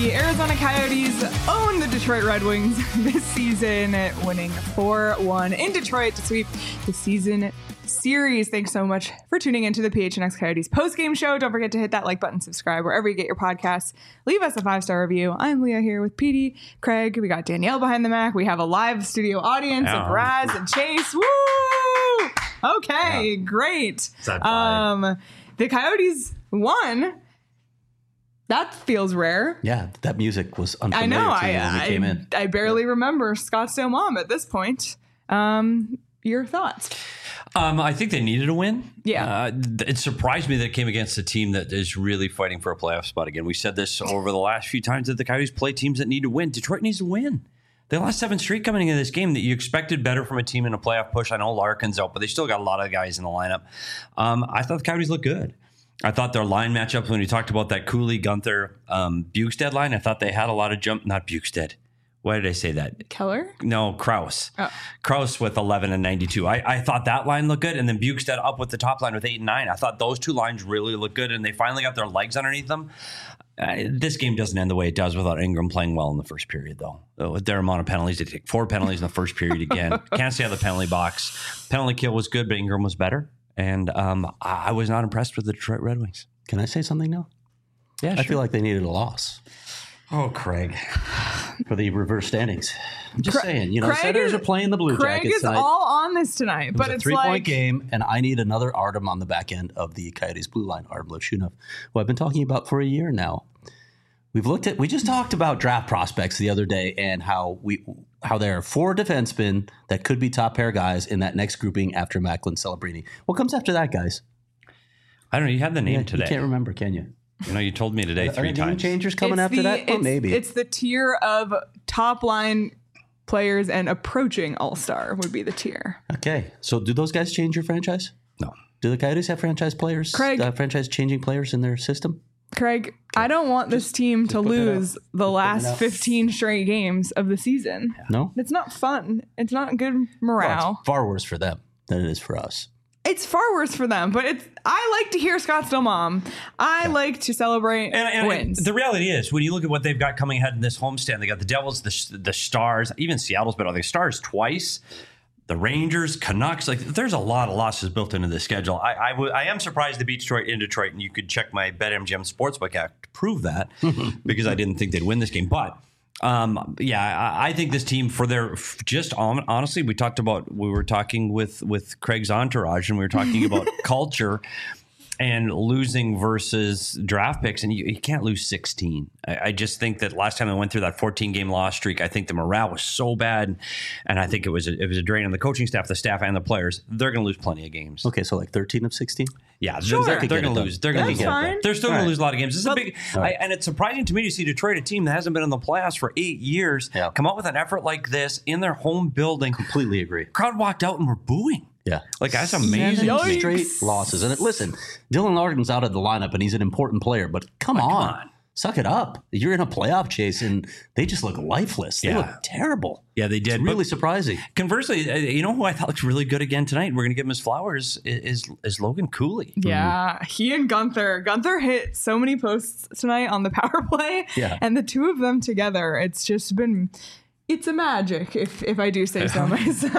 The Arizona Coyotes own the Detroit Red Wings this season, winning 4-1 in Detroit to sweep the season series. Thanks so much for tuning into the PHNX Coyotes post-game show. Don't forget to hit that like button, subscribe wherever you get your podcasts. Leave us a 5-star review. I'm Leah here with Petey, Craig. We got Danielle behind the Mac. We have a live studio audience of Raz and Chase. Woo! Okay, great. The Coyotes won. That feels rare. Yeah, that music was unfamiliar to me when we came in. I barely remember Scottsdale Mom at this point. Your thoughts? I think they needed a win. Yeah. It surprised me that it came against a team that is really fighting for a playoff spot again. We said this over the last few times that the Coyotes play teams that need to win. Detroit needs to win. They lost 7 straight coming into this game that you expected better from a team in a playoff push. I know Larkin's out, but they still got a lot of guys in the lineup. I thought the Coyotes looked good. I thought their line matchup, when you talked about that Cooley, Gunther, Bukestad line, I thought they had a lot of jump. Not Bukestad. Why did I say that? Keller? No, Kraus. Oh. Kraus with 11 and 92. I thought that line looked good. And then Bukestad up with the top line with 8 and 9. I thought those two lines really looked good. And they finally got their legs underneath them. This game doesn't end the way it does without Ingram playing well in the first period, though. With their amount of penalties, they take 4 penalties in the first period again. Can't stay out of the penalty box. Penalty kill was good, but Ingram was better. And I was not impressed with the Detroit Red Wings. Can I say something now? Yeah, I feel like they needed a loss. Oh, Craig. For the reverse standings. I'm just saying, Senators are playing the Blue Craig Jackets is tonight. all on this tonight, but it's 3-point game, and I need another Artem on the back end of the Coyotes blue line, Artem Levshunov, who I've been talking about for a year now. We just talked about draft prospects the other day and how there are 4 defensemen that could be top pair guys in that next grouping after Macklin Celebrini. What comes after that, guys? I don't know. You had the name today. You can't remember, can you? You told me today 3 times. Are game changers coming after that? Well, maybe. It's the tier of top line players and approaching all-star would be the tier. Okay. So do those guys change your franchise? No. Do the Coyotes have franchise players, franchise-changing players in their system? Craig, I don't want this team to lose the last 15 straight games of the season. No? It's not fun. It's not good morale. Well, it's far worse for them than it is for us. It's far worse for them, but I like to hear Scottsdale Mom. I like to celebrate wins. The reality is, when you look at what they've got coming ahead in this homestand, they got the Devils, the Stars, even Seattle's been on the Stars twice. The Rangers, Canucks, there's a lot of losses built into the schedule. I am surprised they beat Detroit in Detroit, and you could check my BetMGM Sportsbook app to prove that because I didn't think they'd win this game. But I think this team honestly, we were talking with Craig's entourage, and we were talking about culture and losing versus draft picks, and you can't lose 16. I just think that last time I went through that 14-game loss streak, I think the morale was so bad, and I think it was a drain on the coaching staff, the staff, and the players. They're going to lose plenty of games. Okay, so 13 of 16? Yeah, sure. they're going to lose. They're going to fine. They're still going to lose a lot of games. This is a big, and it's surprising to me to see Detroit, a team that hasn't been in the playoffs for 8 years, come up with an effort like this in their home building. Completely agree. Crowd walked out and were booing. Yeah. That's amazing. 7 straight losses. And listen, Dylan Larkin's out of the lineup, and he's an important player, but come on. Suck it up. You're in a playoff chase, and they just look lifeless. They look terrible. Yeah, they did. It's really surprising. Conversely, you know who I thought looks really good again tonight? We're going to give him his flowers, is Logan Cooley. Yeah, he and Gunther. Gunther hit so many posts tonight on the power play, and the two of them together, it's just been... It's a magic, if I do say so myself.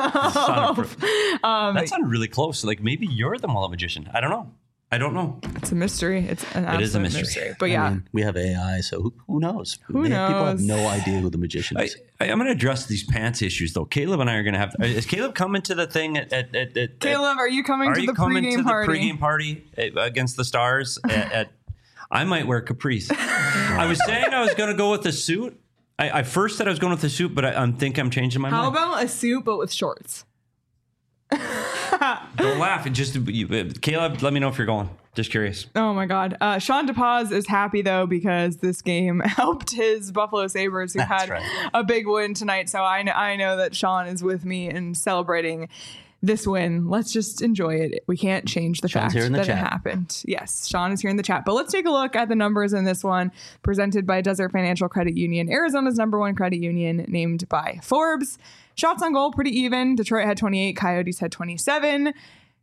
That sounded really close. Maybe you're the Mullet magician. I don't know. It's a mystery. It is a mystery. But I mean, we have AI, so who knows? Who knows? People have no idea who the magician is. I'm going to address these pants issues, though. Caleb and I are going to have... Is Caleb coming to the thing at Caleb, are you coming to the pregame party against the Stars? I might wear capris. I was saying I was going to go with a suit. I first said I was going with a suit, but I think I'm changing my mind. How about a suit but with shorts? Don't laugh. Caleb, let me know if you're going. Just curious. Oh, my God. Sean DePaz is happy, though, because this game helped his Buffalo Sabres, who had a big win tonight. So I know that Sean is with me in celebrating this win. Let's just enjoy it. We can't change the fact that it happened. Yes, Sean is here in the chat. But let's take a look at the numbers in this one, presented by Desert Financial Credit Union, Arizona's #1 credit union, named by Forbes. Shots on goal, pretty even. Detroit had 28, Coyotes had 27.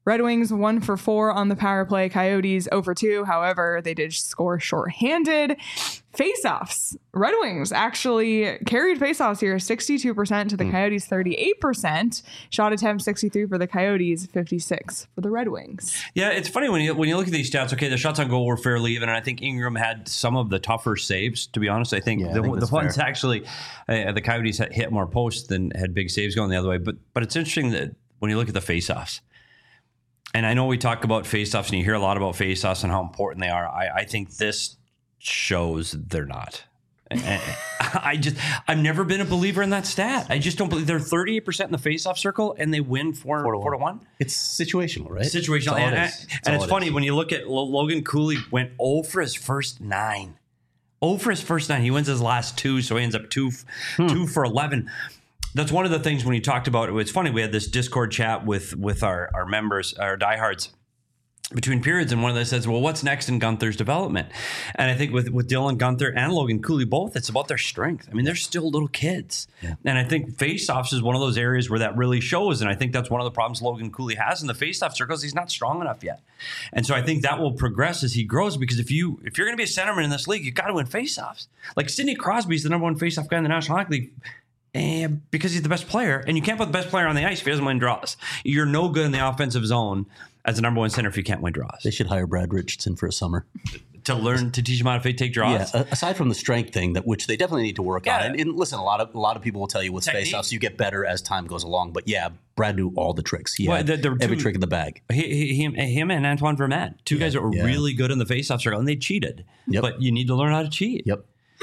Red Wings 1 for 4 on the power play. Coyotes 0 for 2. However, they did score shorthanded. Faceoffs. Red Wings actually carried faceoffs here, 62% to the Coyotes, 38%. Shot attempt 63 for the Coyotes, 56 for the Red Wings. Yeah, it's funny when you look at these stats. Okay, the shots on goal were fairly even, and I think Ingram had some of the tougher saves. To be honest, I think the ones actually the Coyotes hit more posts than had big saves going the other way. But it's interesting that when you look at the faceoffs. And I know we talk about faceoffs, and you hear a lot about faceoffs and how important they are. I think this shows they're not. And I've never been a believer in that stat. I just don't believe they're 38% in the faceoff circle, and they win 4-1. It's situational, right? Situational, and it's funny when you look at Logan Cooley went 0 for his first 9. 0 for his first 9. He wins his last 2, so he ends up 2 for 11. That's one of the things when you talked about it. It's funny, we had this Discord chat with our members, our diehards, between periods, and one of them says, well, what's next in Gunther's development? And I think with Dylan Gunther and Logan Cooley both, it's about their strength. I mean, they're still little kids. Yeah. And I think faceoffs is one of those areas where that really shows. And I think that's one of the problems Logan Cooley has in the faceoff circles. He's not strong enough yet. And so I think that will progress as he grows, because if you're going to be a centerman in this league, you've got to win faceoffs. Like Sidney Crosby's the number 1 faceoff guy in the National Hockey League. And because he's the best player, and you can't put the best player on the ice if he doesn't win draws. You're no good in the offensive zone as the number 1 center if you can't win draws. They should hire Brad Richardson for a summer to teach him how to take draws. Yeah, aside from the strength thing, which they definitely need to work on. And listen, a lot of people will tell you with faceoffs you get better as time goes along. But yeah, Brad knew all the tricks. He had every trick in the bag. Him and Antoine Vermette, two guys that were really good in the faceoff circle, and they cheated. Yep. But you need to learn how to cheat. Yep.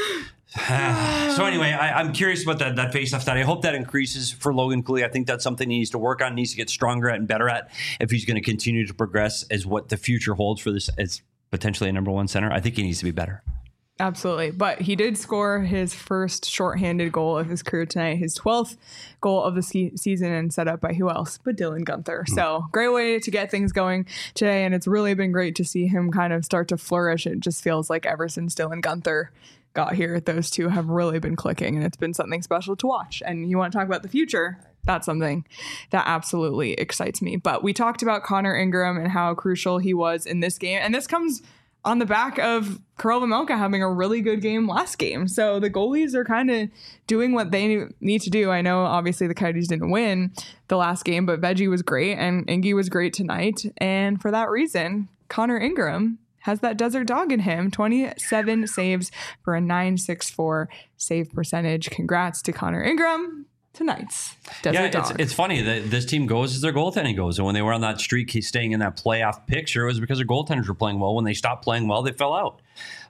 So anyway, I'm curious about that faceoff stat. I hope that increases for Logan Cooley. I think that's something he needs to work on, needs to get stronger at and better at if he's going to continue to progress as what the future holds for this as potentially a number 1 center. I think he needs to be better. Absolutely. But he did score his first shorthanded goal of his career tonight, his 12th goal of the season, and set up by who else but Dylan Gunther. So great way to get things going today. And it's really been great to see him kind of start to flourish. It just feels like ever since Dylan Gunther got here, those two have really been clicking, and it's been something special to watch. And you want to talk about the future, that's something that absolutely excites me. But we talked about Connor Ingram and how crucial he was in this game, and this comes on the back of Karel Vejmelka having a really good game last game. So the goalies are kind of doing what they need to do. I know obviously the Coyotes didn't win the last game, but Veggie was great and Ingy was great tonight. And for that reason, Connor Ingram has that desert dog in him. 27 saves for a .964 save percentage. Congrats to Connor Ingram. Tonight's desert dog. It's funny that this team goes as their goaltending goes. And when they were on that streak, he's staying in that playoff picture, it was because their goaltenders were playing well. When they stopped playing well, they fell out.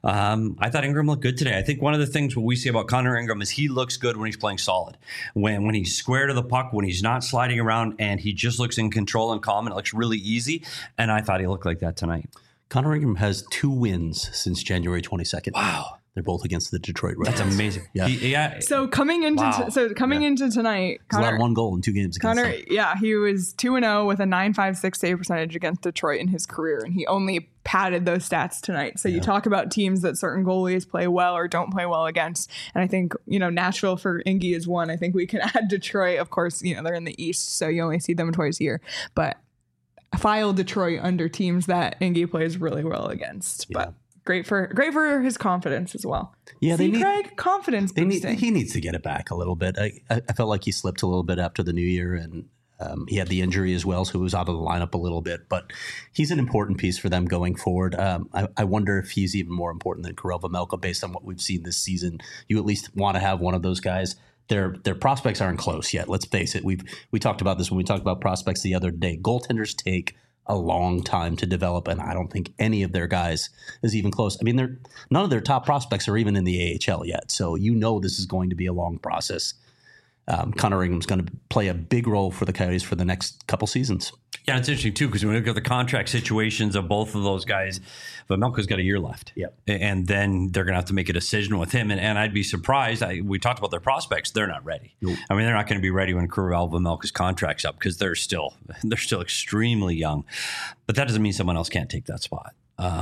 I thought Ingram looked good today. I think one of the things what we see about Connor Ingram is he looks good when he's playing solid. When he's square to the puck, when he's not sliding around, and he just looks in control and calm, and it looks really easy. And I thought he looked like that tonight. Connor Ingram has 2 wins since January 22nd. Wow. They're both against the Detroit Red Wings. That's amazing. Yeah. So coming into into tonight, Connor allowed 1 goal in 2 games. Connor, he was 2-0 with a .956 save percentage against Detroit in his career, and he only padded those stats tonight. So you talk about teams that certain goalies play well or don't play well against, and I think Nashville for Ingy is one. I think we can add Detroit. Of course, they're in the East, so you only see them twice a year, but file Detroit under teams that Ingy plays really well against. Yeah. But great for his confidence as well. Yeah, Craig, confidence boosting. He needs to get it back a little bit. I felt like he slipped a little bit after the new year, and he had the injury as well, so he was out of the lineup a little bit. But he's an important piece for them going forward. I wonder if he's even more important than Karel Vejmelka based on what we've seen this season. You at least want to have one of those guys. Their prospects aren't close yet. Let's face it. We talked about this when we talked about prospects the other day. Goaltenders take a long time to develop, and I don't think any of their guys is even close. I mean, none of their top prospects are even in the AHL yet, so this is going to be a long process. Connor Ingram's going to play a big role for the Coyotes for the next couple seasons. Yeah, it's interesting, too, because when we look at the contract situations of both of those guys, Vejmelka's got a year left. Yep. And then they're going to have to make a decision with him. And I'd be surprised. We talked about their prospects. They're not ready. Nope. I mean, they're not going to be ready when Karel Vejmelka's contract's up because they're still extremely young. But that doesn't mean someone else can't take that spot.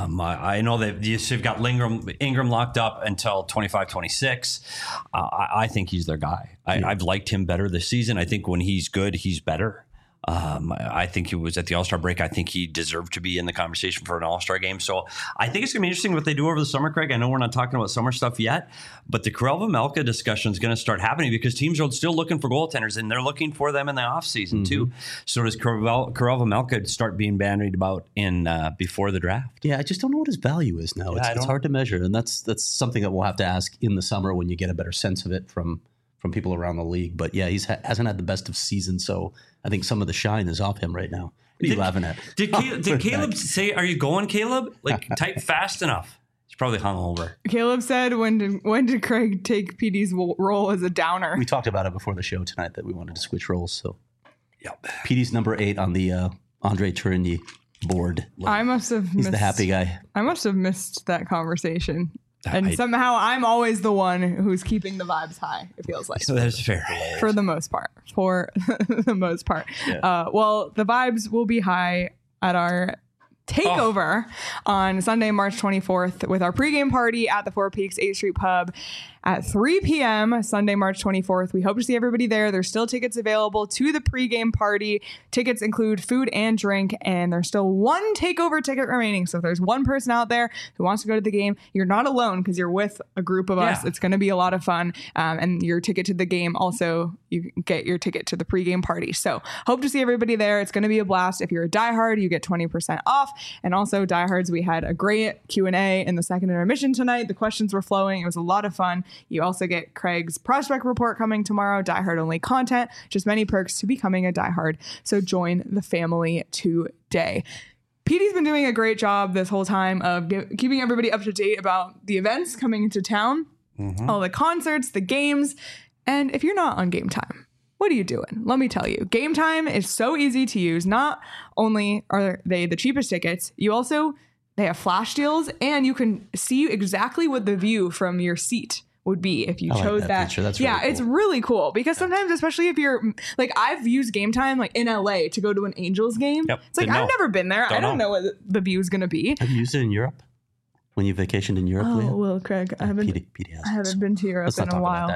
I know that you've got Ingram locked up until 25-26. I think he's their guy. I've liked him better this season. I think when he's good, he's better. I think he was at the All-Star break. I think he deserved to be in the conversation for an All-Star game. So I think it's going to be interesting what they do over the summer, Craig. I know we're not talking about summer stuff yet, but the Karel Vejmelka discussion is going to start happening because teams are still looking for goaltenders, and they're looking for them in the offseason too. So does Karel Vejmelka start being bandied about in before the draft? Yeah, I just don't know what his value is now. It's hard to measure, and that's something that we'll have to ask in the summer when you get a better sense of it from people around the league. But yeah, he hasn't had the best of seasons, so I think some of the shine is off him right now. What are you laughing at? Did Caleb say, "Are you going, Caleb?" Like, type fast enough. He's probably hungover. Caleb said, "When did Craig take PD's role as a downer?" We talked about it before the show tonight that we wanted to switch roles. So, Yep. PD's number 8 on the Andre Tourigny board. He's the happy guy. I must have missed that conversation. And somehow I'm always the one who's keeping the vibes high, it feels like. So that's fair. For the most part. Yeah. Well, the vibes will be high at our takeover on Sunday, March 24th with our pregame party at the Four Peaks 8th Street Pub at 3 p.m. Sunday, March 24th. We hope to see everybody there. There's still tickets available to the pregame party. Tickets include food and drink, and there's still one takeover ticket remaining. So if there's one person out there who wants to go to the game, you're not alone because you're with a group of us. It's going to be a lot of fun. And your ticket to the game also, you get your ticket to the pregame party. So hope to see everybody there. It's going to be a blast. If you're a diehard, you get 20% off. And also diehards, we had a great Q&A in the second intermission tonight. The questions were flowing. It was a lot of fun. You also get Craig's prospect report coming tomorrow, diehard only content, just many perks to becoming a diehard. So join the family today. PD's been doing a great job this whole time of keeping everybody up to date about the events coming into town, all the concerts, the games. And if you're not on Game Time, what are you doing? Let me tell you, Game Time is so easy to use. Not only are they the cheapest tickets, they have flash deals, and you can see exactly what the view from your seat would be if you chose that. Feature. That's really cool. It's really cool because sometimes, especially if you're like, I've used Game Time like in LA to go to an Angels game. Yep. It's like, I've never been there. I don't know what the view is going to be. Have you used it in Europe? When you vacationed in Europe? Oh, well, Craig, I haven't been to Europe in a while.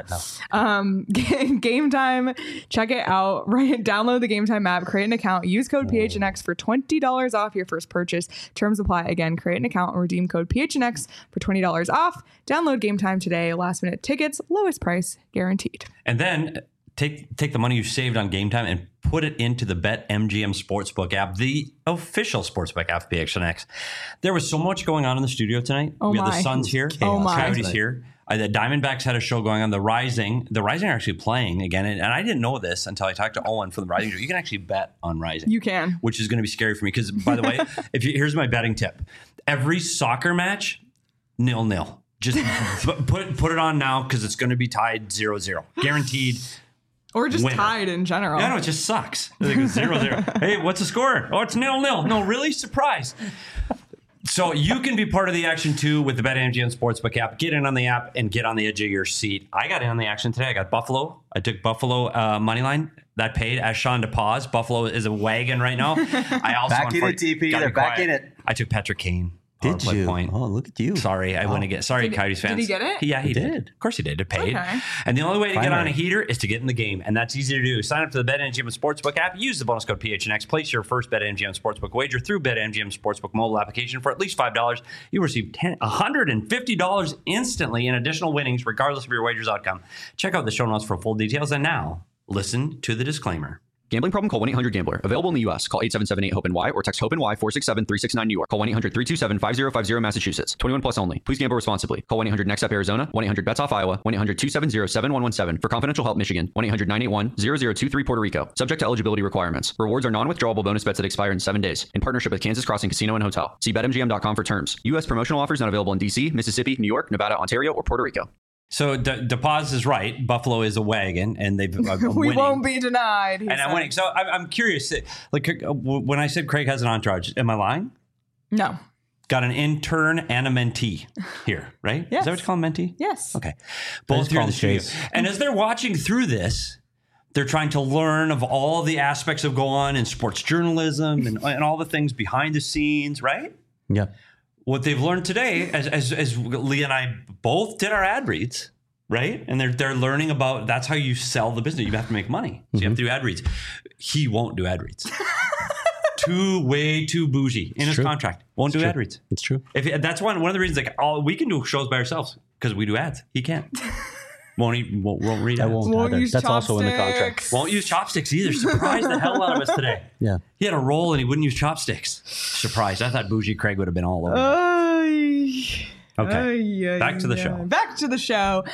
Game Time, check it out. Download the Game Time app, create an account, use code PHNX for $20 off your first purchase. Terms apply. Again, create an account and redeem code PHNX for $20 off. Download Game Time today. Last minute tickets, lowest price guaranteed. And then take the money you saved on Game Time and put it into the BetMGM Sportsbook app, the official sportsbook app of PHNX. There was so much going on in the studio tonight. We had the Suns here. Coyotes here. The Diamondbacks had a show going on. The Rising are actually playing again. And I didn't know this until I talked to Owen from the Rising show. You can actually bet on Rising. You can. Which is going to be scary for me because, by the way, here's my betting tip. Every soccer match, 0-0. Just put it on now because it's going to be tied 0-0. Guaranteed. Or just tied in general. Yeah, no, it just sucks. Like 0-0. Hey, what's the score? Oh, it's 0-0. No, really? Surprise. So you can be part of the action too with the BetMGM Sportsbook app. Get in on the app and get on the edge of your seat. I got in on the action today. I got Buffalo. I took Buffalo money line. That paid as Sean to pause. Buffalo is a wagon right now. I also back in it, TP. They're back in it. I took Patrick Kane. Did you? Point. Oh, look at you. Sorry, I went again. Sorry, Coyotes fans. Did he get it? Yeah, he did. Of course he did. It paid. Okay. And the only way to get on a heater is to get in the game, and that's easy to do. Sign up for the BetMGM Sportsbook app. Use the bonus code PHNX. Place your first BetMGM Sportsbook wager through BetMGM Sportsbook mobile application for at least $5. You receive $150 instantly in additional winnings, regardless of your wager's outcome. Check out the show notes for full details. And now, listen to the disclaimer. Gambling problem? Call 1-800-GAMBLER. Available in the U.S. Call 877-8-HOPE-NY or text HOPE-NY 467-369 New York. Call 1-800-327-5050 Massachusetts. 21 plus only. Please gamble responsibly. Call 1-800-NEXT-UP Arizona. 1-800-BETS-OFF Iowa. 1-800-270-7117. For confidential help, Michigan. 1-800-981-0023 Puerto Rico. Subject to eligibility requirements. Rewards are non-withdrawable bonus bets that expire in 7 days. In partnership with Kansas Crossing Casino and Hotel. See BetMGM.com for terms. U.S. promotional offers not available in D.C., Mississippi, New York, Nevada, Ontario, or Puerto Rico. So DePaz is right. Buffalo is a wagon, and they've we won't be denied. And I'm winning. So I'm curious. Like when I said Craig has an entourage, am I lying? No. Got an intern and a mentee here, right? Yes. Is that what you call a mentee? Yes. Okay. Both here in the studio. And as they're watching through this, they're trying to learn of all the aspects of go on in sports journalism and all the things behind the scenes, right? Yeah. What they've learned today, as Lee and I both did our ad reads, right? And they're learning about that's how you sell the business. You have to make money. So you have to do ad reads. he won't do ad reads. Way too bougie in his contract. Won't do ad reads. It's true. If that's one of the reasons. Like, we can do shows by ourselves because we do ads. He can't. Won't read ads. Won't use That's also in the contract. chopsticks. Won't use chopsticks either. Surprised the hell out of us today. Yeah. He had a roll and he wouldn't use chopsticks. Surprised. I thought bougie Craig would have been all over that. Okay. Back to the show. Back to the show.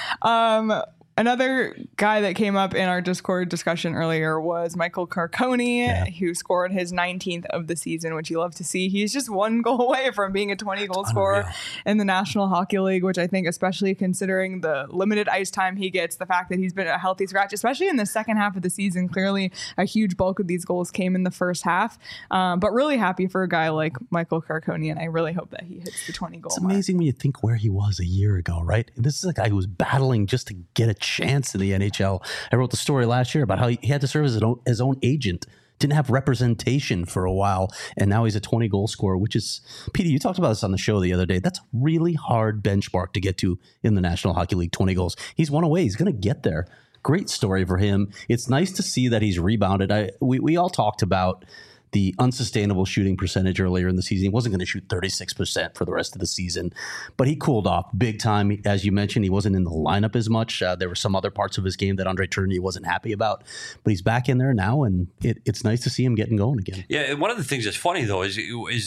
Another guy that came up in our Discord discussion earlier was Michael Carcone, who scored his 19th of the season, which you love to see. He's just one goal away from being a 20-goal scorer in the National Hockey League, which I think, especially considering the limited ice time he gets, the fact that he's been a healthy scratch, especially in the second half of the season, clearly a huge bulk of these goals came in the first half. But really happy for a guy like Michael Carcone, and I really hope that he hits the 20-goal It's amazing when you think where he was a year ago, right? This is a guy who was battling just to get a chance in the NHL. I wrote the story last year about how he had to serve as his own agent, didn't have representation for a while, and now he's a 20-goal scorer, which is, Petey, you talked about this on the show the other day. That's a really hard benchmark to get to in the National Hockey League, 20 goals. He's one away. He's going to get there. Great story for him. It's nice to see that he's rebounded. We all talked about the unsustainable shooting percentage earlier in the season. He wasn't going to shoot 36% for the rest of the season, but he cooled off big time. As you mentioned, he wasn't in the lineup as much. There were some other parts of his game that Andre Tourigny wasn't happy about, but he's back in there now, and it's nice to see him getting going again. Yeah, and one of the things that's funny, though, is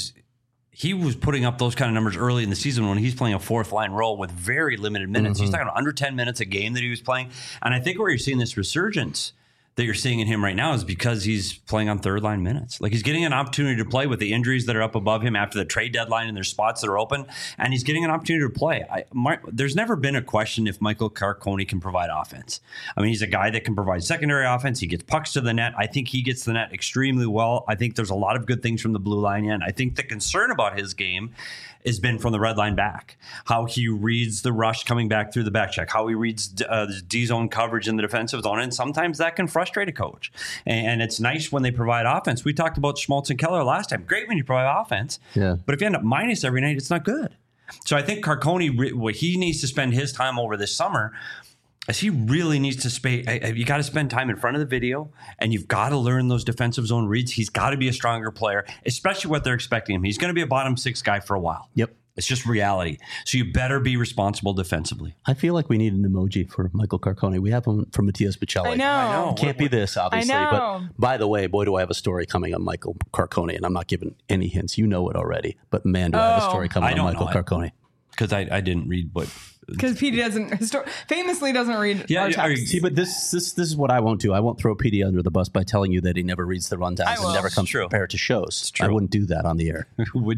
he was putting up those kind of numbers early in the season when he's playing a fourth-line role with very limited minutes. He's talking about under 10 minutes a game that he was playing, and I think where you're seeing this resurgence that you're seeing in him right now is because he's playing on third line minutes. Like, he's getting an opportunity to play with the injuries that are up above him after the trade deadline, and there's spots that are open, and he's getting an opportunity to play. There's never been a question if Michael Carcone can provide offense. I mean, he's a guy that can provide secondary offense. He gets pucks to the net. I think he gets the net extremely well. I think there's a lot of good things from the blue line end. I think the concern about his game has been from the red line back, how he reads the rush coming back through the back check, how he reads D-zone coverage in the defensive zone, and sometimes that can frustrate a coach. And it's nice when they provide offense. We talked about Schmaltz and Keller last time. Great when you provide offense, but if you end up minus every night, it's not good. So I think Carcone, what he needs to spend his time over this summer is he really needs to you got to spend time in front of the video, and you've got to learn those defensive zone reads. He's got to be a stronger player, especially what they're expecting him. He's going to be a bottom six guy for a while. Yep. It's just reality. So you better be responsible defensively. I feel like we need an emoji for Michael Carcone. We have one from Matthias Pacelli. I know. Can't be this, obviously. I know. But by the way, boy, do I have a story coming on Michael Carcone, and I'm not giving any hints. You know it already. But man, do I have a story coming on Michael Carcone. Because I didn't read what... Because PD famously doesn't read our text. See, but this is what I won't do. I won't throw PD under the bus by telling you that he never reads the rundowns and never comes prepared to shows. I wouldn't do that on the air.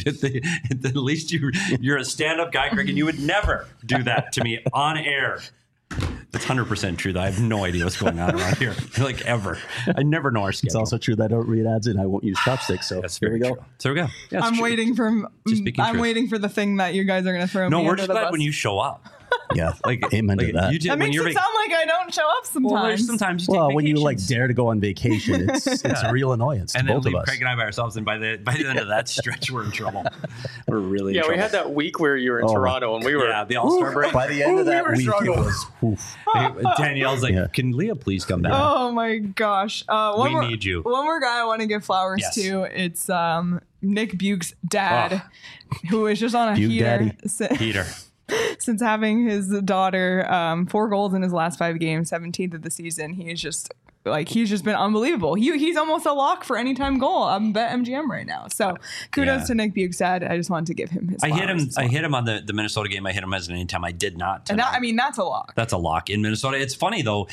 At least you're a stand-up guy, Greg, and you would never do that to me on air. That's 100% true, though. I have no idea what's going on around here. Like, ever. I never know our schedule. It's also true that I don't read ads and I won't use chopsticks. So that's here we go. True. So there we go. Yeah, I'm waiting for the thing that you guys are going to throw me under the bus. No, we're just glad when you show up. Yeah, amen to that. That makes it sound like I don't show up sometimes. Well, sometimes you take when you dare to go on vacation, it's a real annoyance to both of us. Craig and I by ourselves, and by the end of that stretch, we're in trouble. We're really in trouble. We had that week where you were in Toronto, and we were the All-Star break. By the end of that week, it was Danielle's like, "Can Leah please come down?" Oh my gosh, we need you. One more guy I want to give flowers to. It's Nick Buke's dad, who is just on a heater. Since having his daughter, 4 goals in his last 5 games, 17th of the season, he's just been unbelievable. He's almost a lock for anytime goal. I'm bet MGM right now. So kudos to Nick Buke's dad. I just wanted to give him his flowers. I hit him on the Minnesota game. I hit him as an anytime. I did not. And that's a lock. That's a lock in Minnesota. It's funny though.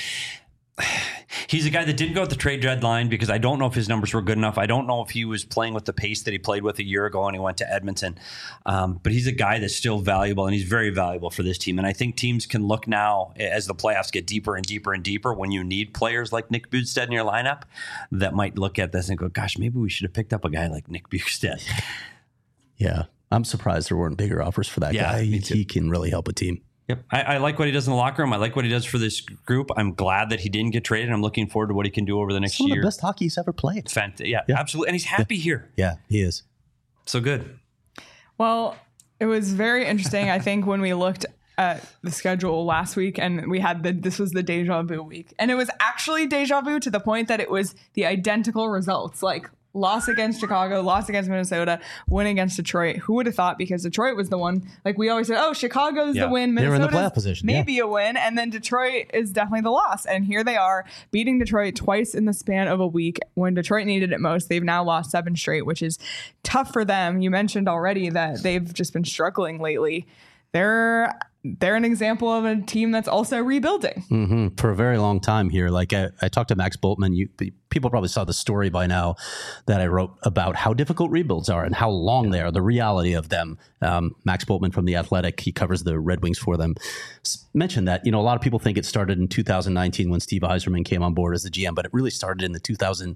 He's a guy that didn't go at the trade deadline because I don't know if his numbers were good enough. I don't know if he was playing with the pace that he played with a year ago when he went to Edmonton. But he's a guy that's still valuable, and he's very valuable for this team. And I think teams can look now as the playoffs get deeper and deeper and deeper when you need players like Nick Bjugstad in your lineup that might look at this and go, gosh, maybe we should have picked up a guy like Nick Bjugstad. Yeah, I'm surprised there weren't bigger offers for that guy. He can really help a team. Yep. I like what he does in the locker room. I like what he does for this group. I'm glad that he didn't get traded. I'm looking forward to what he can do over the next year. Some of the best hockey he's ever played. Yeah, absolutely. And he's happy here. Yeah, he is. So good. Well, it was very interesting. I think when we looked at the schedule last week, and we had this was the deja vu week, and it was actually deja vu to the point that it was the identical results, like loss against Chicago, loss against Minnesota, win against Detroit. Who would have thought? Because Detroit was the one, like we always said, oh, Chicago's the win, They were in the Minnesota's playoff position, maybe a win, and then Detroit is definitely the loss. And here they are beating Detroit twice in the span of a week when Detroit needed it most. They've now lost 7 straight, which is tough for them. You mentioned already that they've just been struggling lately. They're an example of a team that's also rebuilding. For a very long time here. Like I talked to Max Boltman. People probably saw the story by now that I wrote about how difficult rebuilds are and how long they are, the reality of them. Max Boltman from The Athletic, he covers the Red Wings for them, mentioned that, a lot of people think it started in 2019 when Steve Yzerman came on board as the GM, but it really started in the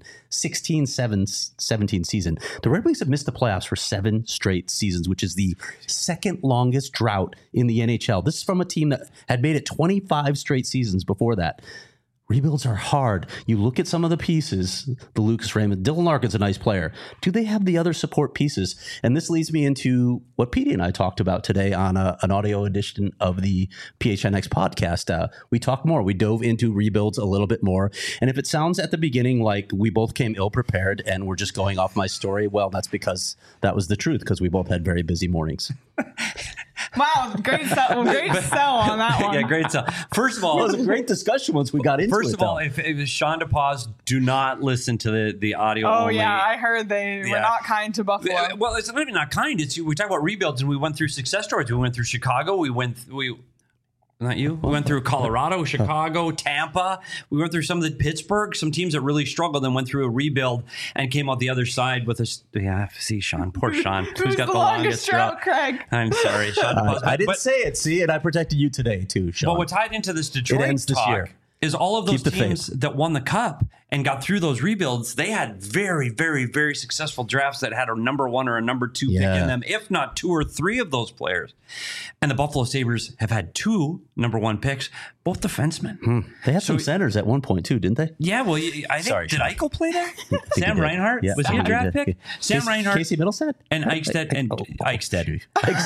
2016-17 season. The Red Wings have missed the playoffs for 7 straight seasons, which is the second longest drought in the NHL. This is from a team that had made it 25 straight seasons before that. Rebuilds are hard. You look at some of the pieces, the Lucas Raymond, Dylan Larkin's a nice player. Do they have the other support pieces? And this leads me into what Petey and I talked about today on an audio edition of the PHNX podcast. We talked more. We dove into rebuilds a little bit more. And if it sounds at the beginning like we both came ill-prepared and we're just going off my story, well, that's because that was the truth, because we both had very busy mornings. Wow, great sell on that one. Yeah, great sell. First of all, It was a great discussion once we got into it. First of all, if Sean DePaz, do not listen to the audio. Oh, only. yeah, I heard they were not kind to Buffalo. Well, it's not even not kind. We talk about rebuilds, and we went through success stories. We went through Chicago. We went through Colorado, Chicago, Tampa. We went through some of the Pittsburgh, some teams that really struggled and went through a rebuild and came out the other side with us. Yeah, see, Sean, poor Sean, who's got the longest drought. Craig. I'm sorry, Sean. I didn't say it. See, and I protected you today too, Sean. But what tied into this Detroit ends this talk year. is all of those Keep the teams faith. that won the cup and got through those rebuilds. They had very, very, very successful drafts that had a number 1 or a number 2 pick in them, if not 2 or 3 of those players. And the Buffalo Sabres have had 2 number 1 picks, both defensemen. They had some centers at one point too, didn't they? Yeah, well, I think, Sorry, did Sean. Eichel play there? he Sam did. Reinhart? Yeah. Was he a draft Yeah. pick? Sam Reinhart. Casey Middlestad? And Eichstead. And Eichstead.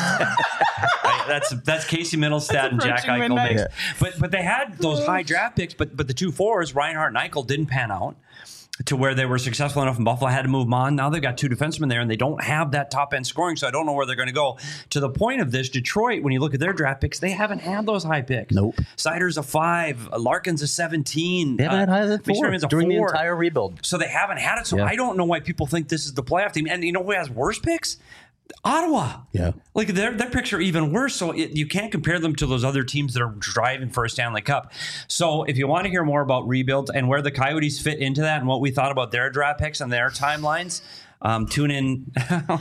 That's Casey Middlestad and Jack approaching Eichel. midnight. But they had those high draft picks, but the 2 forwards, Reinhart and Eichel, didn't pan out to where they were successful enough in Buffalo. I had to move them on. Now they've got 2 defensemen there, and they don't have that top-end scoring, so I don't know where they're going to go. To the point of this, Detroit, when you look at their draft picks, they haven't had those high picks. Nope. Sider's a 5. Larkin's a 17. They haven't had higher than 4 McSherman's a during the 4. entire rebuild. So they haven't had it. So Yeah. I don't know why people think this is the playoff team. And you know who has worse picks? Ottawa. Yeah. Like their picks are even worse. So you can't compare them to those other teams that are driving for a Stanley Cup. So if you want to hear more about rebuilds and where the Coyotes fit into that and what we thought about their draft picks and their timelines, tune in.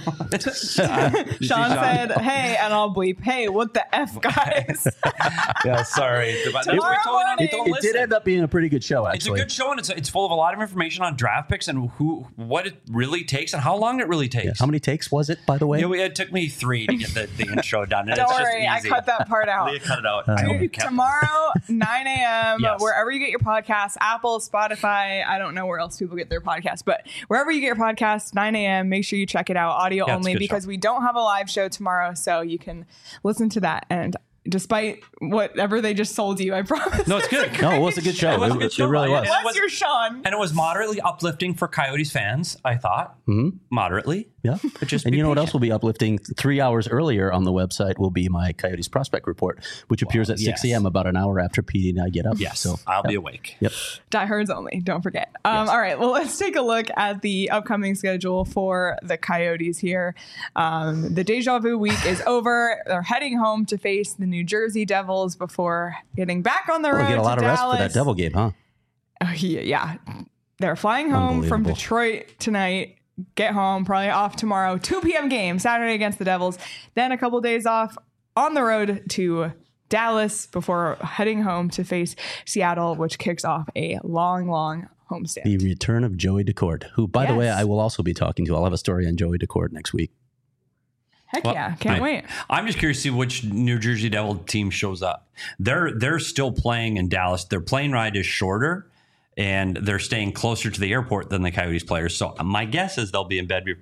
Sean said, hey, and I'll bleep, hey, what the F, guys? Yeah, sorry. Tomorrow morning. It did end up being a pretty good show, It's a actually. good show, and it's full of a lot of information on draft picks and what it really takes and how long it really takes. Yeah. How many takes was it, by the way? It took me 3 to get the intro done. And Don't it's just worry, I easy. cut that part out. Leah cut it out. I hope you kept Tomorrow, 9 a.m., Yes. wherever you get your podcasts, Apple, Spotify, I don't know where else people get their podcasts, but wherever you get your podcasts, 9 a.m., make sure you check it out, audio Yeah, it's a only, good because show. we don't have a live show tomorrow, so you can listen to that. And despite whatever they just sold you, I promise. No, it's good. No, it was a good show. It was a good show. It really was. And it Bless your Sean. And it was moderately uplifting for Coyotes fans, I thought. Moderately. Yeah. But just And be you know what else patient. will be uplifting? 3 hours earlier on the website will be my Coyotes prospect report, which appears at 6 yes. a.m. about an hour after Petey and I get up. Yes, So I'll be awake. Yep. Diehards only, don't forget. All right, well, let's take a look at the upcoming schedule for the Coyotes here. The deja vu week is over. They're heading home to face the New Jersey Devils before getting back on the road We'll get a lot to of rest Dallas. for that Devil game, huh? Oh, yeah. They're flying home from Unbelievable. Detroit tonight. Get home, probably off tomorrow. 2 p.m. game, Saturday against the Devils. Then a couple days off on the road to Dallas before heading home to face Seattle, which kicks off a long, long homestand. The return of Joey Decourt, who, by the way, Yes. I will also be talking to. I'll have a story on Joey Decourt next week. Heck Well, yeah, can't wait. I'm just curious to see which New Jersey Devil team shows up. They're still playing in Dallas. Their plane ride is shorter, and they're staying closer to the airport than the Coyotes players. So my guess is they'll be in bed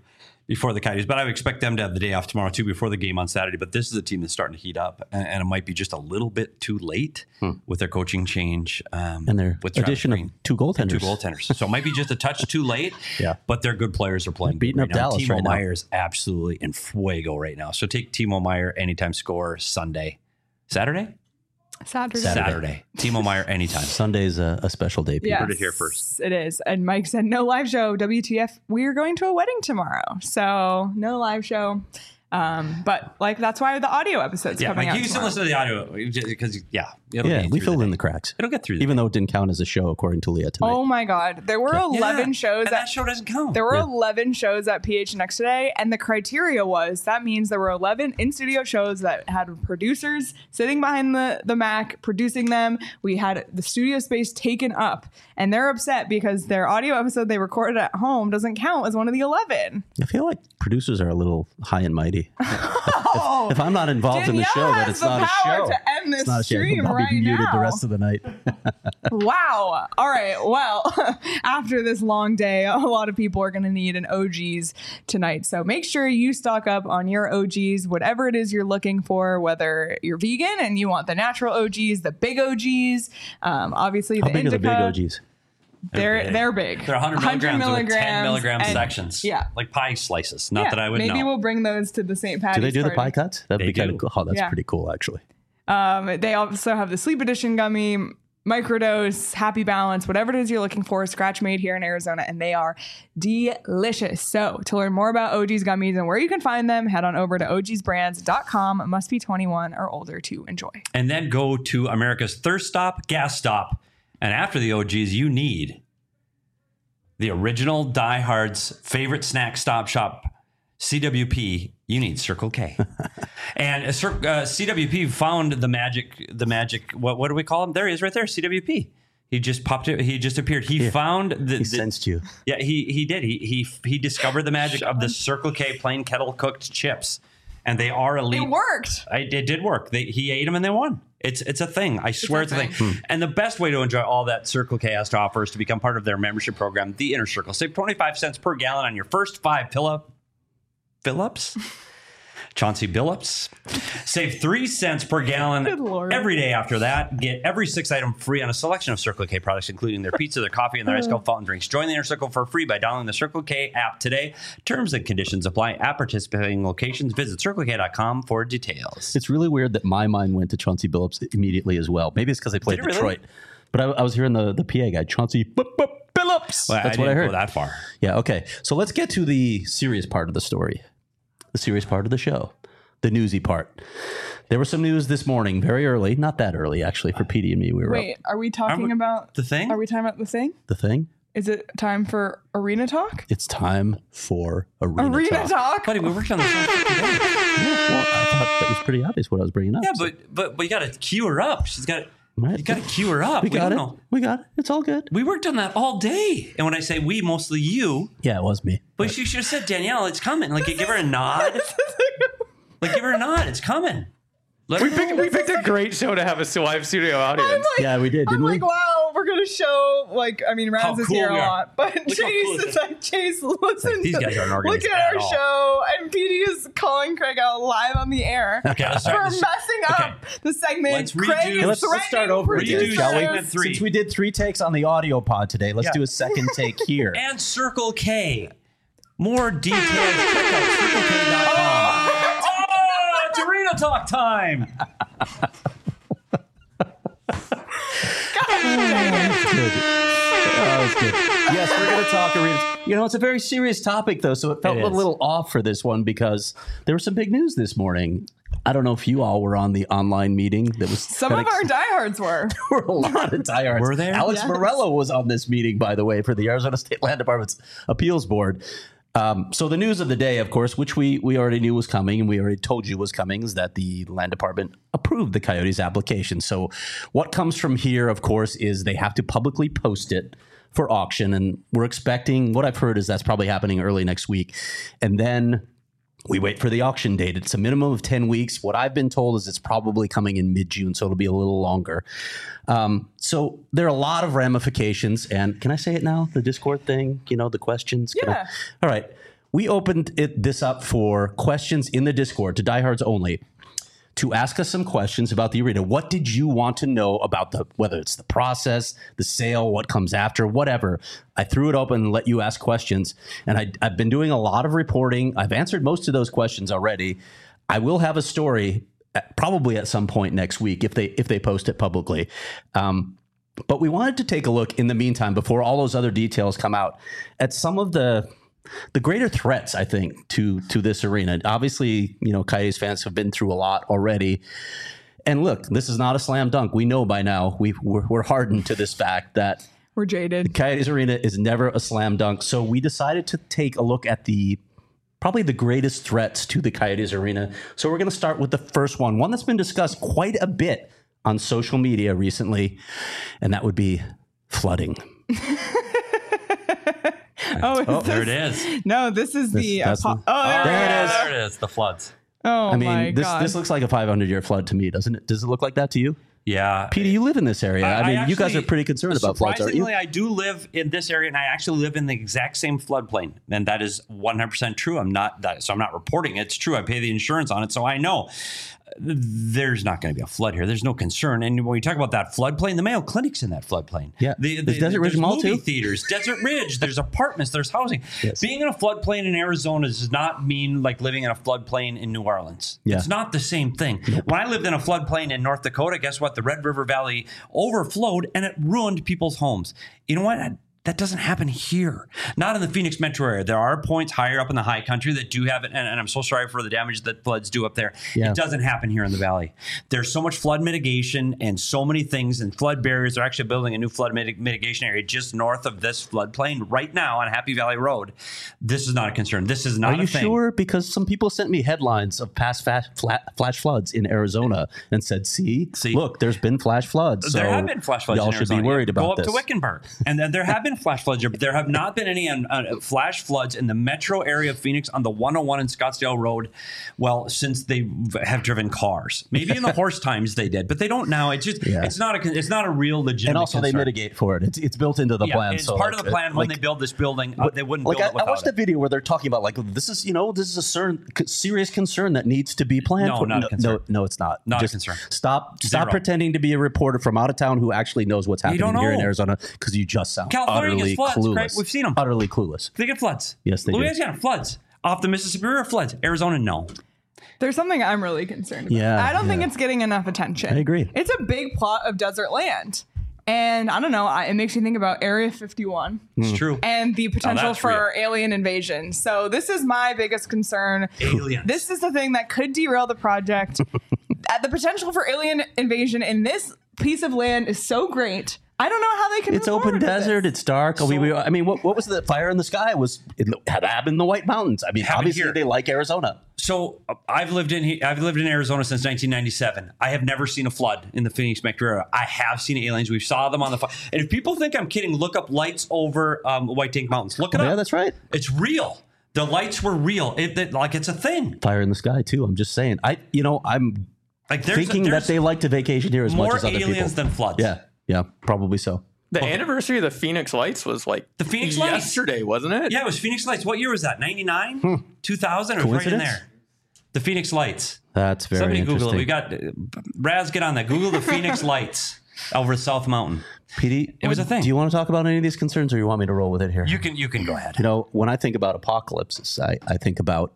before the Coyotes, but I would expect them to have the day off tomorrow too before the game on Saturday. But this is a team that's starting to heat up, and it might be just a little bit too late with their coaching change and their with addition of two goaltenders. So it might be just a touch too late. Yeah, but their good players are playing. They're beating up Dallas Timo right now. Meyer's absolutely in fuego right now. So take Timo Meyer anytime score Saturday. Timo Meyer anytime. Sunday's a special day. People. Yes, Heard it here first. It is. And Mike said, no live show. WTF. We're going to a wedding tomorrow. So no live show. But like, that's why the audio episode's coming out you can still tomorrow. listen to the audio because We filled in the cracks. It'll get through. Even though it didn't count as a show, according to Leah tonight. Oh my God. There were 11 shows. And that show doesn't count. There were 11 shows at PHNX today, and the criteria was that means there were 11 in-studio shows that had producers sitting behind the Mac producing them. We had the studio space taken up, and they're upset because their audio episode they recorded at home doesn't count as one of the 11. I feel like producers are a little high and mighty. If I'm not involved in the show, then it's not a show. To end this It's not a show. stream I'll be right muted now. the rest of the night. Wow. All right. Well, after this long day, a lot of people are going to need an OGs tonight. So make sure you stock up on your OGs, whatever it is you're looking for, whether you're vegan and you want the natural OGs, the big OGs, obviously How the big are the big indica. OGs? They're big. They're 100 milligrams with 10 milligram and- sections. Yeah. Like pie slices. Not that I would maybe know. we'll bring those to the St. Patty's Do they do the party. pie cuts? That'd be kind of do. cool. Oh, that's Yeah. pretty cool, actually. They also have the Sleep Edition gummy, Microdose, Happy Balance, whatever it is you're looking for, scratch made here in Arizona, and they are delicious. So to learn more about OG's gummies and where you can find them, head on over to ogsbrands.com. Must be 21 or older to enjoy. And then go to America's thirst stop, gas stop. And after the OGs, you need the original diehards favorite snack stop shop, CWP. You need Circle K. And CWP found the magic. What do we call him? There he is, right there. CWP. He just popped it. He just appeared. He found He sensed you. Yeah, he did. He discovered the magic of the Circle K plain kettle cooked chips, and they are elite. It worked. It did work. He ate them and they won. It's a thing. I swear it's a thing. And the best way to enjoy all that Circle K has to offer is to become part of their membership program, The Inner Circle. Save 25 cents per gallon on your first 5 fill-ups. Chauncey Billups. Save 3 cents per gallon Good Lord. every day after that. Get every 6 item free on a selection of Circle K products, including their pizza, their coffee, and their ice cold fountain drinks. Join the Inner Circle for free by downloading the Circle K app today. Terms and conditions apply at participating locations. Visit CircleK.com for details. It's really weird that my mind went to Chauncey Billups immediately as well. Maybe it's because I played Did it Detroit. really? But I was hearing the PA guy, Chauncey Billups. Well, That's I what I didn't heard. go that far. Yeah, okay. So let's get to the serious part of the story, the serious part of the show, the newsy part. There was some news this morning, very early, not that early, actually, for PD and me. We were Wait, up. are we talking about The thing? Are we talking about the thing? The thing? Is it time for arena talk? It's time for arena Arena talk? Buddy, we worked on this. Yeah, well, I thought that was pretty obvious what I was bringing up. Yeah, so- but you got to cue her up. She's got Right. you got to cue her up. We got don't it. know. We got it. It's all good. We worked on that all day. And when I say we, mostly you. Yeah, it was me. But you should have said, Danielle, it's coming. Like, give her a nod. Like, give her a nod. It's coming. Let her know. We picked a great show to have a live studio audience. Yeah, we did, I'm didn't we? like, wow, we're gonna show How Raz is cool here a we are. lot, but Look how Chase cool this is like, Chase, listen, these to- guys aren't look organized at at our all. show, and PD is calling Craig out live on the air Okay, let's for start this. messing up the segment. Let's Craig redo- is let's threatening start over again, producers. shall we? Segment 3. Since we did 3 takes on the audio pod today, let's Yeah. do a second take here. And Circle K. More details. Check out CircleK.com. Oh, it's arena talk time. Good. That was good. Yes, we're going to talk arena. You know, it's a very serious topic, though, so it felt It a is. little off for this one because there was some big news this morning. I don't know if you all were on the online meeting. That was Some of our diehards were. were a lot of diehards. Were there? Alex Yes. Morello was on this meeting, by the way, for the Arizona State Land Department's appeals board. So the news of the day, of course, which we already knew was coming and we already told you was coming, is that the Land Department approved the Coyotes application. So what comes from here, of course, is they have to publicly post it for auction. And we're expecting, what I've heard is that's probably happening early next week. And then we wait for the auction date. It's a minimum of 10 weeks. What I've been told is it's probably coming in mid-June, so it'll be a little longer. So there are a lot of ramifications. And can I say it now? The Discord thing, you know, the questions? Can I- Yeah. All right. we opened this up for questions in the Discord to diehards only, to ask us some questions about the arena. What did you want to know about whether it's the process, the sale, what comes after, whatever? I threw it open and let you ask questions. And I've been doing a lot of reporting. I've answered most of those questions already. I will have a story probably at some point next week if they post it publicly. But we wanted to take a look in the meantime, before all those other details come out, at some of the greater threats, I think, to this arena. Obviously, Coyotes fans have been through a lot already. And look, this is not a slam dunk. We know by now, we're hardened to this fact that we're jaded. The Coyotes arena is never a slam dunk. So we decided to take a look at probably the greatest threats to the Coyotes arena. So we're going to start with the first one that's been discussed quite a bit on social media recently, and that would be flooding. There it is. No, this is there it is. There it is. The floods. Oh, I mean, my God. this looks like a 500-year flood to me, doesn't it? Does it look like that to you? Yeah. Peter, you live in this area. I mean, actually, you guys are pretty concerned about floods, aren't you? Surprisingly, I do live in this area, and I actually live in the exact same floodplain. And that is 100% true. I'm not reporting it. It's true. I pay the insurance on it, so I know there's not going to be a flood here. There's no concern. And when we talk about that floodplain, the Mayo Clinic's in that floodplain. Yeah. The Desert Ridge Mall movie too? theaters, Desert Ridge. There's apartments. There's housing. Yes. Being in a floodplain in Arizona does not mean like living in a floodplain in New Orleans. Yeah. It's not the same thing. Nope. When I lived in a floodplain in North Dakota, guess what? The Red River Valley overflowed and it ruined people's homes. You know what? That doesn't happen here. Not in the Phoenix metro area. There are points higher up in the high country that do have it, and I'm so sorry for the damage that floods do up there. Yeah. It doesn't happen here in the valley. There's so much flood mitigation and so many things, and flood barriers. They're actually building a new flood mitigation area just north of this floodplain right now on Happy Valley Road. This is not a concern. This is not a thing. Are you sure? Because some people sent me headlines of past flash floods in Arizona and said, see, look, there's been flash floods. So there have been flash floods y'all in should Arizona. be worried about this. this. Go up to Wickenburg. And then there have been flash floods. There have not been any flash floods in the metro area of Phoenix on the 101 and Scottsdale Road, well, since they have driven cars. Maybe in the horse times they did, but they don't now. It's just it's not a real legitimate And also concern. they mitigate for it. It's built into the plan. It's so part of the plan when they build this building. They wouldn't build it without I watched a video where they're talking about this is a serious concern that needs to be planned. No, not a concern. No, it's not. Not Just a concern. Stop Zero. pretending to be a reporter from out of town who actually knows what's happening here in Arizona, because you just sound California utterly gets floods, clueless. Craig. We've seen them. Utterly clueless. They get floods. Yes, they do. Louisiana floods. Off the Mississippi River floods. Arizona, no. There's something I'm really concerned about. Yeah, I don't think it's getting enough attention. I agree. It's a big plot of desert land. And I don't know, it makes me think about Area 51. It's true. And the potential that's for alien invasion. So this is my biggest concern. Aliens. This is the thing that could derail the project. The potential for alien invasion in this piece of land is so great. I don't know how they can. It's move open forward with desert. this. It's dark. I mean, what was the fire in the sky? It happened in the White Mountains. I mean, Happened obviously here. they like Arizona. So I've lived in Arizona since 1997. I have never seen a flood in the Phoenix metro area. I have seen aliens. We saw them on the. And if people think I'm kidding, look up lights over White Tank Mountains. Look it up. Yeah, that's right. It's real. The lights were real. It's a thing. Fire in the sky too. I'm just saying. I'm Like thinking that they like to vacation here as much as other people. More aliens than floods. Yeah, probably so. The anniversary of the Phoenix Lights was like The Phoenix Lights. yesterday, wasn't it? Yeah, it was Phoenix Lights. What year was that? 99? 2000? It was right in Coincidence? there. The Phoenix Lights. That's very Somebody interesting. Google it. We got Raz, get on that. Google the Phoenix Lights over South Mountain. PD, It was a thing. Do you want to talk about any of these concerns, or you want me to roll with it here? You can go ahead. When I think about apocalypses, I think about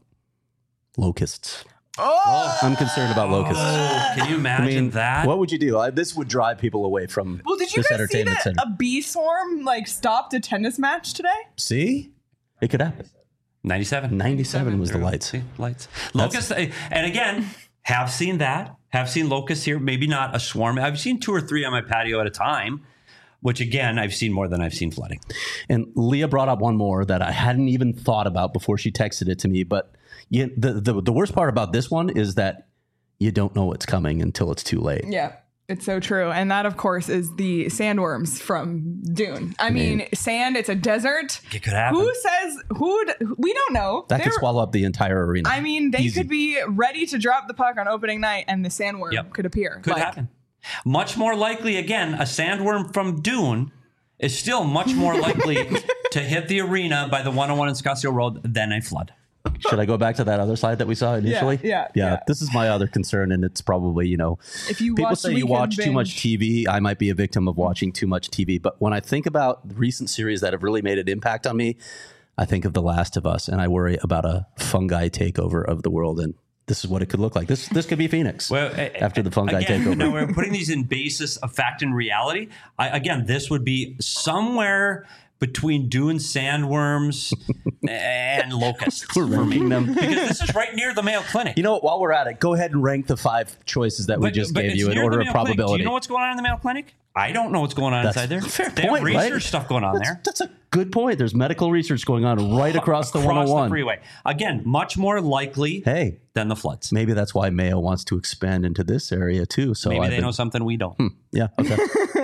locusts. Oh! I'm concerned about locusts. Can you imagine that? What would you do? This would drive people away from Well, did you this guys see entertainment that center. a bee swarm stopped a tennis match today? See? It could happen. 97. 97 was the lights. See, lights. Locusts. And again, have seen that. Have seen locusts here. Maybe not a swarm. I've seen 2 or 3 on my patio at a time, which again, I've seen more than I've seen flooding. And Leah brought up one more that I hadn't even thought about before she texted it to me. But the worst part about this one is that you don't know what's coming until it's too late. Yeah, it's so true. And that, of course, is the sandworms from Dune. I mean, sand, it's a desert. It could happen. Who says, we don't know. That could swallow up the entire arena. I mean, they Easy. could be ready to drop the puck on opening night and the sandworm could appear. Could happen. Much more likely, again, a sandworm from Dune is still much more likely to hit the arena by the 101 in Scottsdale Road, then a flood. Should I go back to that other slide that we saw initially? Yeah. This is my other concern, and it's probably, If you people watch say you Weekend watch too much Binge- TV. I might be a victim of watching too much TV. But when I think about the recent series that have really made an impact on me, I think of The Last of Us, and I worry about a fungi takeover of the world. And this is what it could look like. This could be Phoenix after the fungi takeover. Now we're putting these in basis of fact and reality. Again, this would be somewhere between dune sandworms and locusts. We're ranking them. Because this is right near the Mayo Clinic. You know what? While we're at it, go ahead and rank the 5 choices that we just gave it's you in near order the of Mayo Clinic. probability. Do you know what's going on in the Mayo Clinic? I don't know what's going on inside there. Fair They point, have research right? stuff going on there. That's a good point. There's medical research going on right across the 101. the freeway. Again, much more likely than the floods. Maybe that's why Mayo wants to expand into this area too. So Maybe they know something we don't. Yeah. Okay.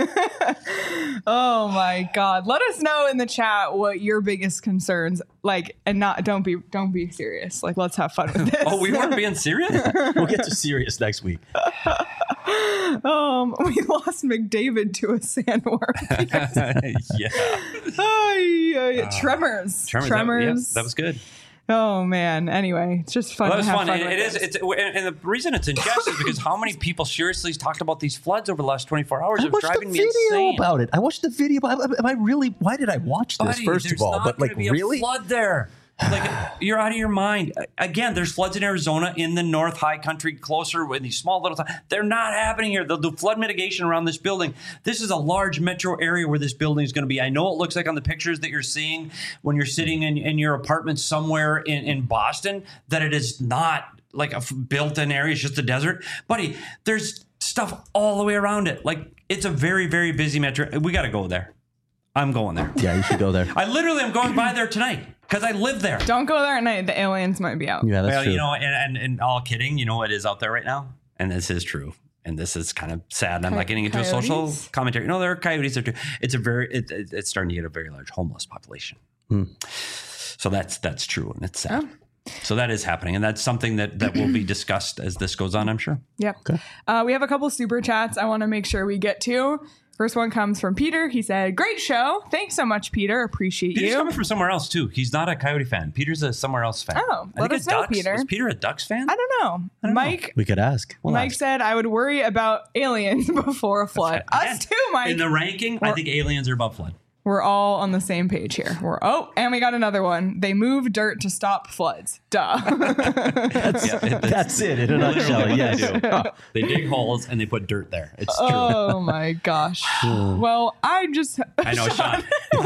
Oh my God. Let us know in the chat what your biggest concerns and don't be serious. Let's have fun with this. Oh, we weren't being serious? We'll get to serious next week. We lost McDavid to a sandworm. Tremors. That was good. Oh man. Anyway, it's just fun. Well, that was to have fun. fun with It is. this. And the reason it's in jest is because how many people seriously talked about these floods over the last 24 hours? It was driving me insane. About it. I watched the video. Am I really? Why did I watch this? Buddy, first of all, there's but not gonna be really, a flood there. You're out of your mind. Again, there's floods in Arizona, in the North High Country, closer in these small little towns. They're not happening here. They'll do flood mitigation around this building. This is a large metro area where this building is going to be. I know it looks like on the pictures that you're seeing when you're sitting in your apartment somewhere in Boston that it is not like a built-in area. It's just a desert. Buddy, there's stuff all the way around it. It's a very, very busy metro. We got to go there. I'm going there. Yeah, you should go there. I literally am going by there tonight because I live there. Don't go there at night. The aliens might be out. Yeah, that's true. And all kidding, you know what is out there right now? And this is true. And this is kind of sad. I'm not getting into a social commentary. No, there are coyotes there too. It's starting to get a very large homeless population. So that's true. And it's sad. So that is happening. And that's something that will be discussed as this goes on, I'm sure. Yep. Okay. We have a couple super chats I want to make sure we get to. First one comes from Peter. He said, "Great show. Thanks so much, Peter. Appreciate Peter's you." coming from somewhere else, too. He's not a Coyote fan. Peter's a somewhere else fan. Oh, let us know, Peter. Was Peter a Ducks fan? I don't know. Mike We could ask. Mike said, "I would worry about aliens before a flood." Us too, Mike. In the ranking, I think aliens are above flood. We're all on the same page here. And we got another one. They move dirt to stop floods. Duh. That's it in a nutshell. Yes. They dig holes and they put dirt there. It's true. Oh my gosh. Well, I know Sean.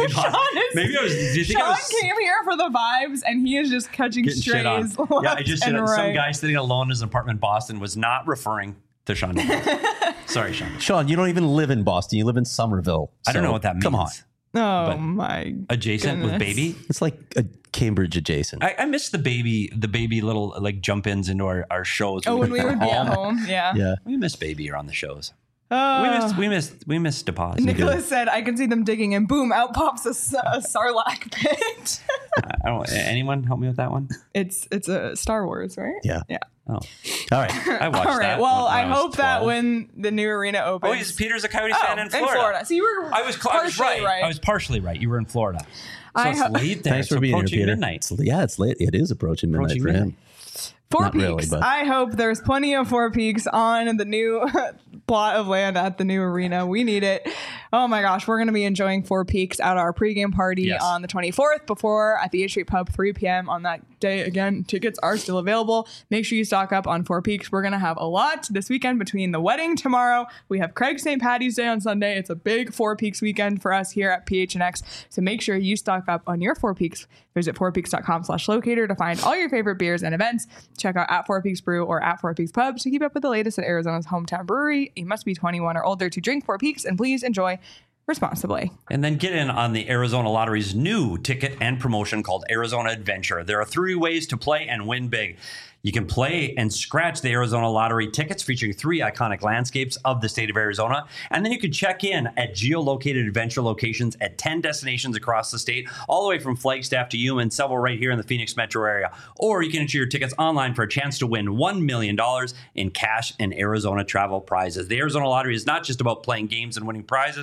Maybe I was. Do you think Sean I was came here for the vibes, and he is just catching getting shit on? strays. Yeah, I just and said right. some guy sitting alone in his apartment in Boston was not referring to Sean. Sorry, Sean. Sean, you don't even live in Boston. You live in Somerville. I don't know what that means. Come on. Oh my! Adjacent goodness. with baby. It's like a Cambridge adjacent. I miss the baby little jump ins into our shows. Oh, when we would be at home, yeah. Yeah. We miss baby around the shows. Oh. We miss deposit. Nicholas said, "I can see them digging, and boom, out pops a sarlacc pit." I don't. Anyone help me with that one? It's a Star Wars, right? Yeah. Yeah. Oh, All right. I watched All right. that. Well, when I was hope that 12. when the new arena opens. Oh, Peter's a Coyotes fan in Florida. So you were. I was partially right. I was partially right. You were in Florida. So it's late there. Thanks It's for being here, approaching Peter. midnight. It's late. It is approaching midnight for him. Four Not Peaks. really, but- I hope there's plenty of Four Peaks on the new plot of land at the new arena. We need it. Oh my gosh, we're going to be enjoying Four Peaks at our pregame party on the 24th before at the H Street Pub, 3 p.m. on that day. Again, tickets are still available. Make sure you stock up on Four Peaks. We're going to have a lot this weekend between the wedding tomorrow. We have Craig St. Patty's Day on Sunday. It's a big Four Peaks weekend for us here at PHNX. So make sure you stock up on your Four Peaks. Visit fourpeaks.com/locator to find all your favorite beers and events. Check out at Four Peaks Brew or at Four Peaks Pub to keep up with the latest at Arizona's hometown brewery. You must be 21 or older to drink Four Peaks, and please enjoy responsibly. And then get in on the Arizona Lottery's new ticket and promotion called Arizona Adventure. There are 3 ways to play and win big. You can play and scratch the Arizona Lottery tickets featuring 3 iconic landscapes of the state of Arizona. And then you can check in at geolocated adventure locations at 10 destinations across the state, all the way from Flagstaff to Yuma and several right here in the Phoenix metro area. Or you can enter your tickets online for a chance to win $1 million in cash and Arizona travel prizes. The Arizona Lottery is not just about playing games and winning prizes.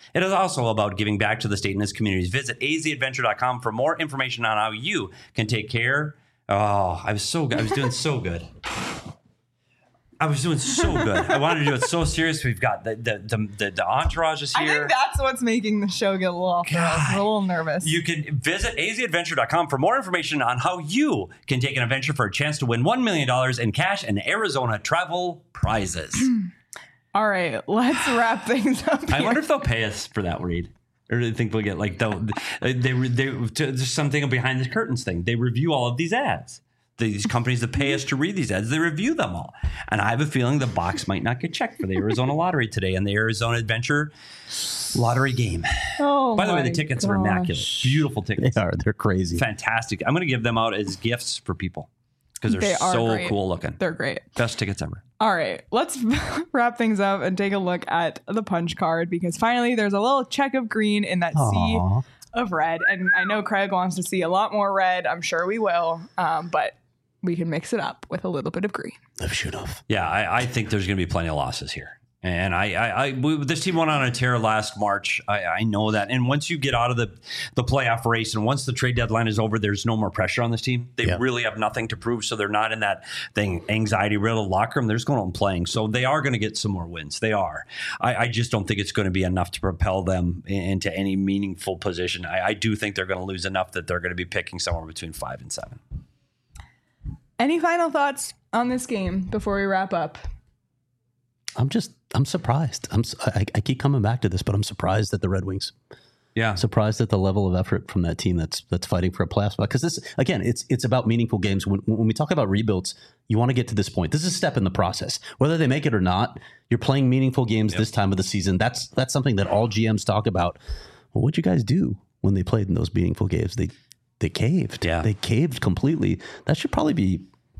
It is also about giving back to the state and its communities. Visit azadventure.com for more information on how you can take care. Oh, I was doing so good. I was doing so good. I wanted to do it so serious. We've got the entourage is here. I think that's what's making the show get a little off. I'm a little nervous. You can visit azadventure.com for more information on how you can take an adventure for a chance to win $1 million in cash and Arizona travel prizes. All right, let's wrap things up here. I wonder if they'll pay us for that, Reed. Or do you think we'll get like there's something behind the curtains thing? They review all of these ads. These companies that pay us to read these ads, they review them all. And I have a feeling the box might not get checked for the Arizona Lottery today and the Arizona Adventure Lottery game. Oh, by the way, the tickets are immaculate. Beautiful tickets. They are. They're crazy. Fantastic. I'm going to give them out as gifts for people because they're so great. cool looking. They're great. Best tickets ever. All right, let's wrap things up and take a look at the punch card because finally there's a little check of green in that sea of red. And I know Craig wants to see a lot more red. I'm sure we will. But we can mix it up with a little bit of green. Yeah, I think there's going to be plenty of losses here. And this team went on a tear last March. I know that. And once you get out of the playoff race and once the trade deadline is over, there's no more pressure on this team. They really have nothing to prove. So they're not in that anxiety-riddled locker room. They're just going on playing. So they are going to get some more wins. They are. I just don't think it's going to be enough to propel them into any meaningful position. I do think they're going to lose enough that they're going to be picking somewhere between 5 and 7. Any final thoughts on this game before we wrap up? I'm surprised. I keep coming back to this, but I'm surprised at the Red Wings. Yeah, surprised at the level of effort from that team that's fighting for a playoff spot. Because this, again, it's about meaningful games. When we talk about rebuilds, you want to get to this point. This is a step in the process. Whether they make it or not, you're playing meaningful games this time of the season. That's something that all GMs talk about. Well, what'd you guys do when they played in those meaningful games? They caved. Yeah. They caved completely. That should probably be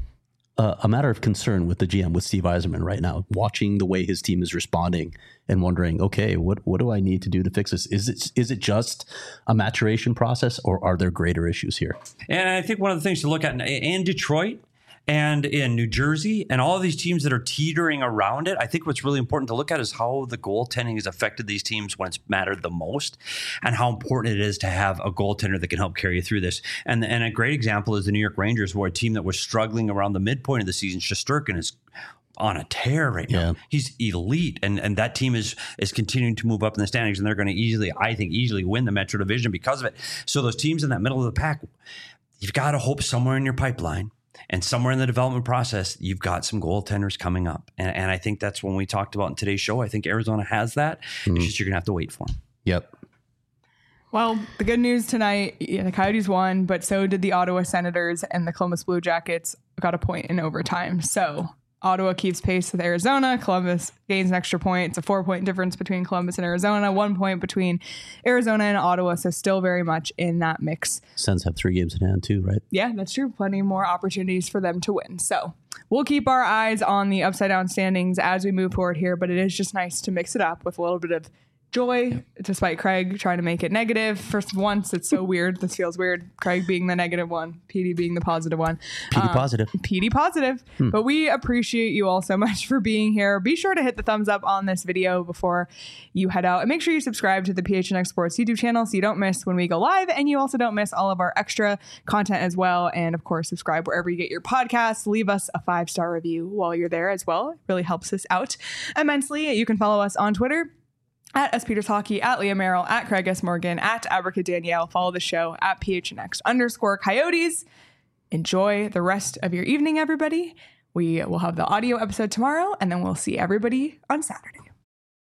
a matter of concern with the GM, with Steve Yzerman right now, watching the way his team is responding and wondering, okay, what do I need to do to fix this? Is it just a maturation process, or are there greater issues here? And I think one of the things to look at in Detroit and in New Jersey and all of these teams that are teetering around it, I think what's really important to look at is how the goaltending has affected these teams when it's mattered the most and how important it is to have a goaltender that can help carry you through this. And a great example is the New York Rangers, where a team that was struggling around the midpoint of the season, Shesterkin is on a tear right now. Yeah. He's elite, and that team is continuing to move up in the standings, and they're going to easily win the Metro Division because of it. So those teams in that middle of the pack, you've got to hope somewhere in your pipeline and somewhere in the development process, you've got some goaltenders coming up. And I think that's when we talked about in today's show. I think Arizona has that. It's just you're going to have to wait for them. Yep. Well, the good news tonight, the Coyotes won, but so did the Ottawa Senators, and the Columbus Blue Jackets got a point in overtime. So Ottawa keeps pace with Arizona. Columbus gains an extra point. It's a 4-point difference between Columbus and Arizona, 1 point between Arizona and Ottawa. So still very much in that mix. Sens have 3 games in hand too, right? Yeah, that's true. Plenty more opportunities for them to win. So we'll keep our eyes on the upside down standings as we move forward here, but it is just nice to mix it up with a little bit of joy, despite Craig trying to make it negative. For once, it's so weird. This feels weird. Craig being the negative one, PD being the positive one. PD positive. PD positive. But we appreciate you all so much for being here. Be sure to hit the thumbs up on this video before you head out. And make sure you subscribe to the PHNX Sports YouTube channel so you don't miss when we go live. And you also don't miss all of our extra content as well. And of course, subscribe wherever you get your podcasts. Leave us a 5-star review while you're there as well. It really helps us out immensely. You can follow us on Twitter at SPeters Hockey, at Leah Merrill, at Craig S. Morgan, at Abrica Danielle. Follow the show at PHNX_Coyotes. Enjoy the rest of your evening, everybody. We will have the audio episode tomorrow, and then we'll see everybody on Saturday.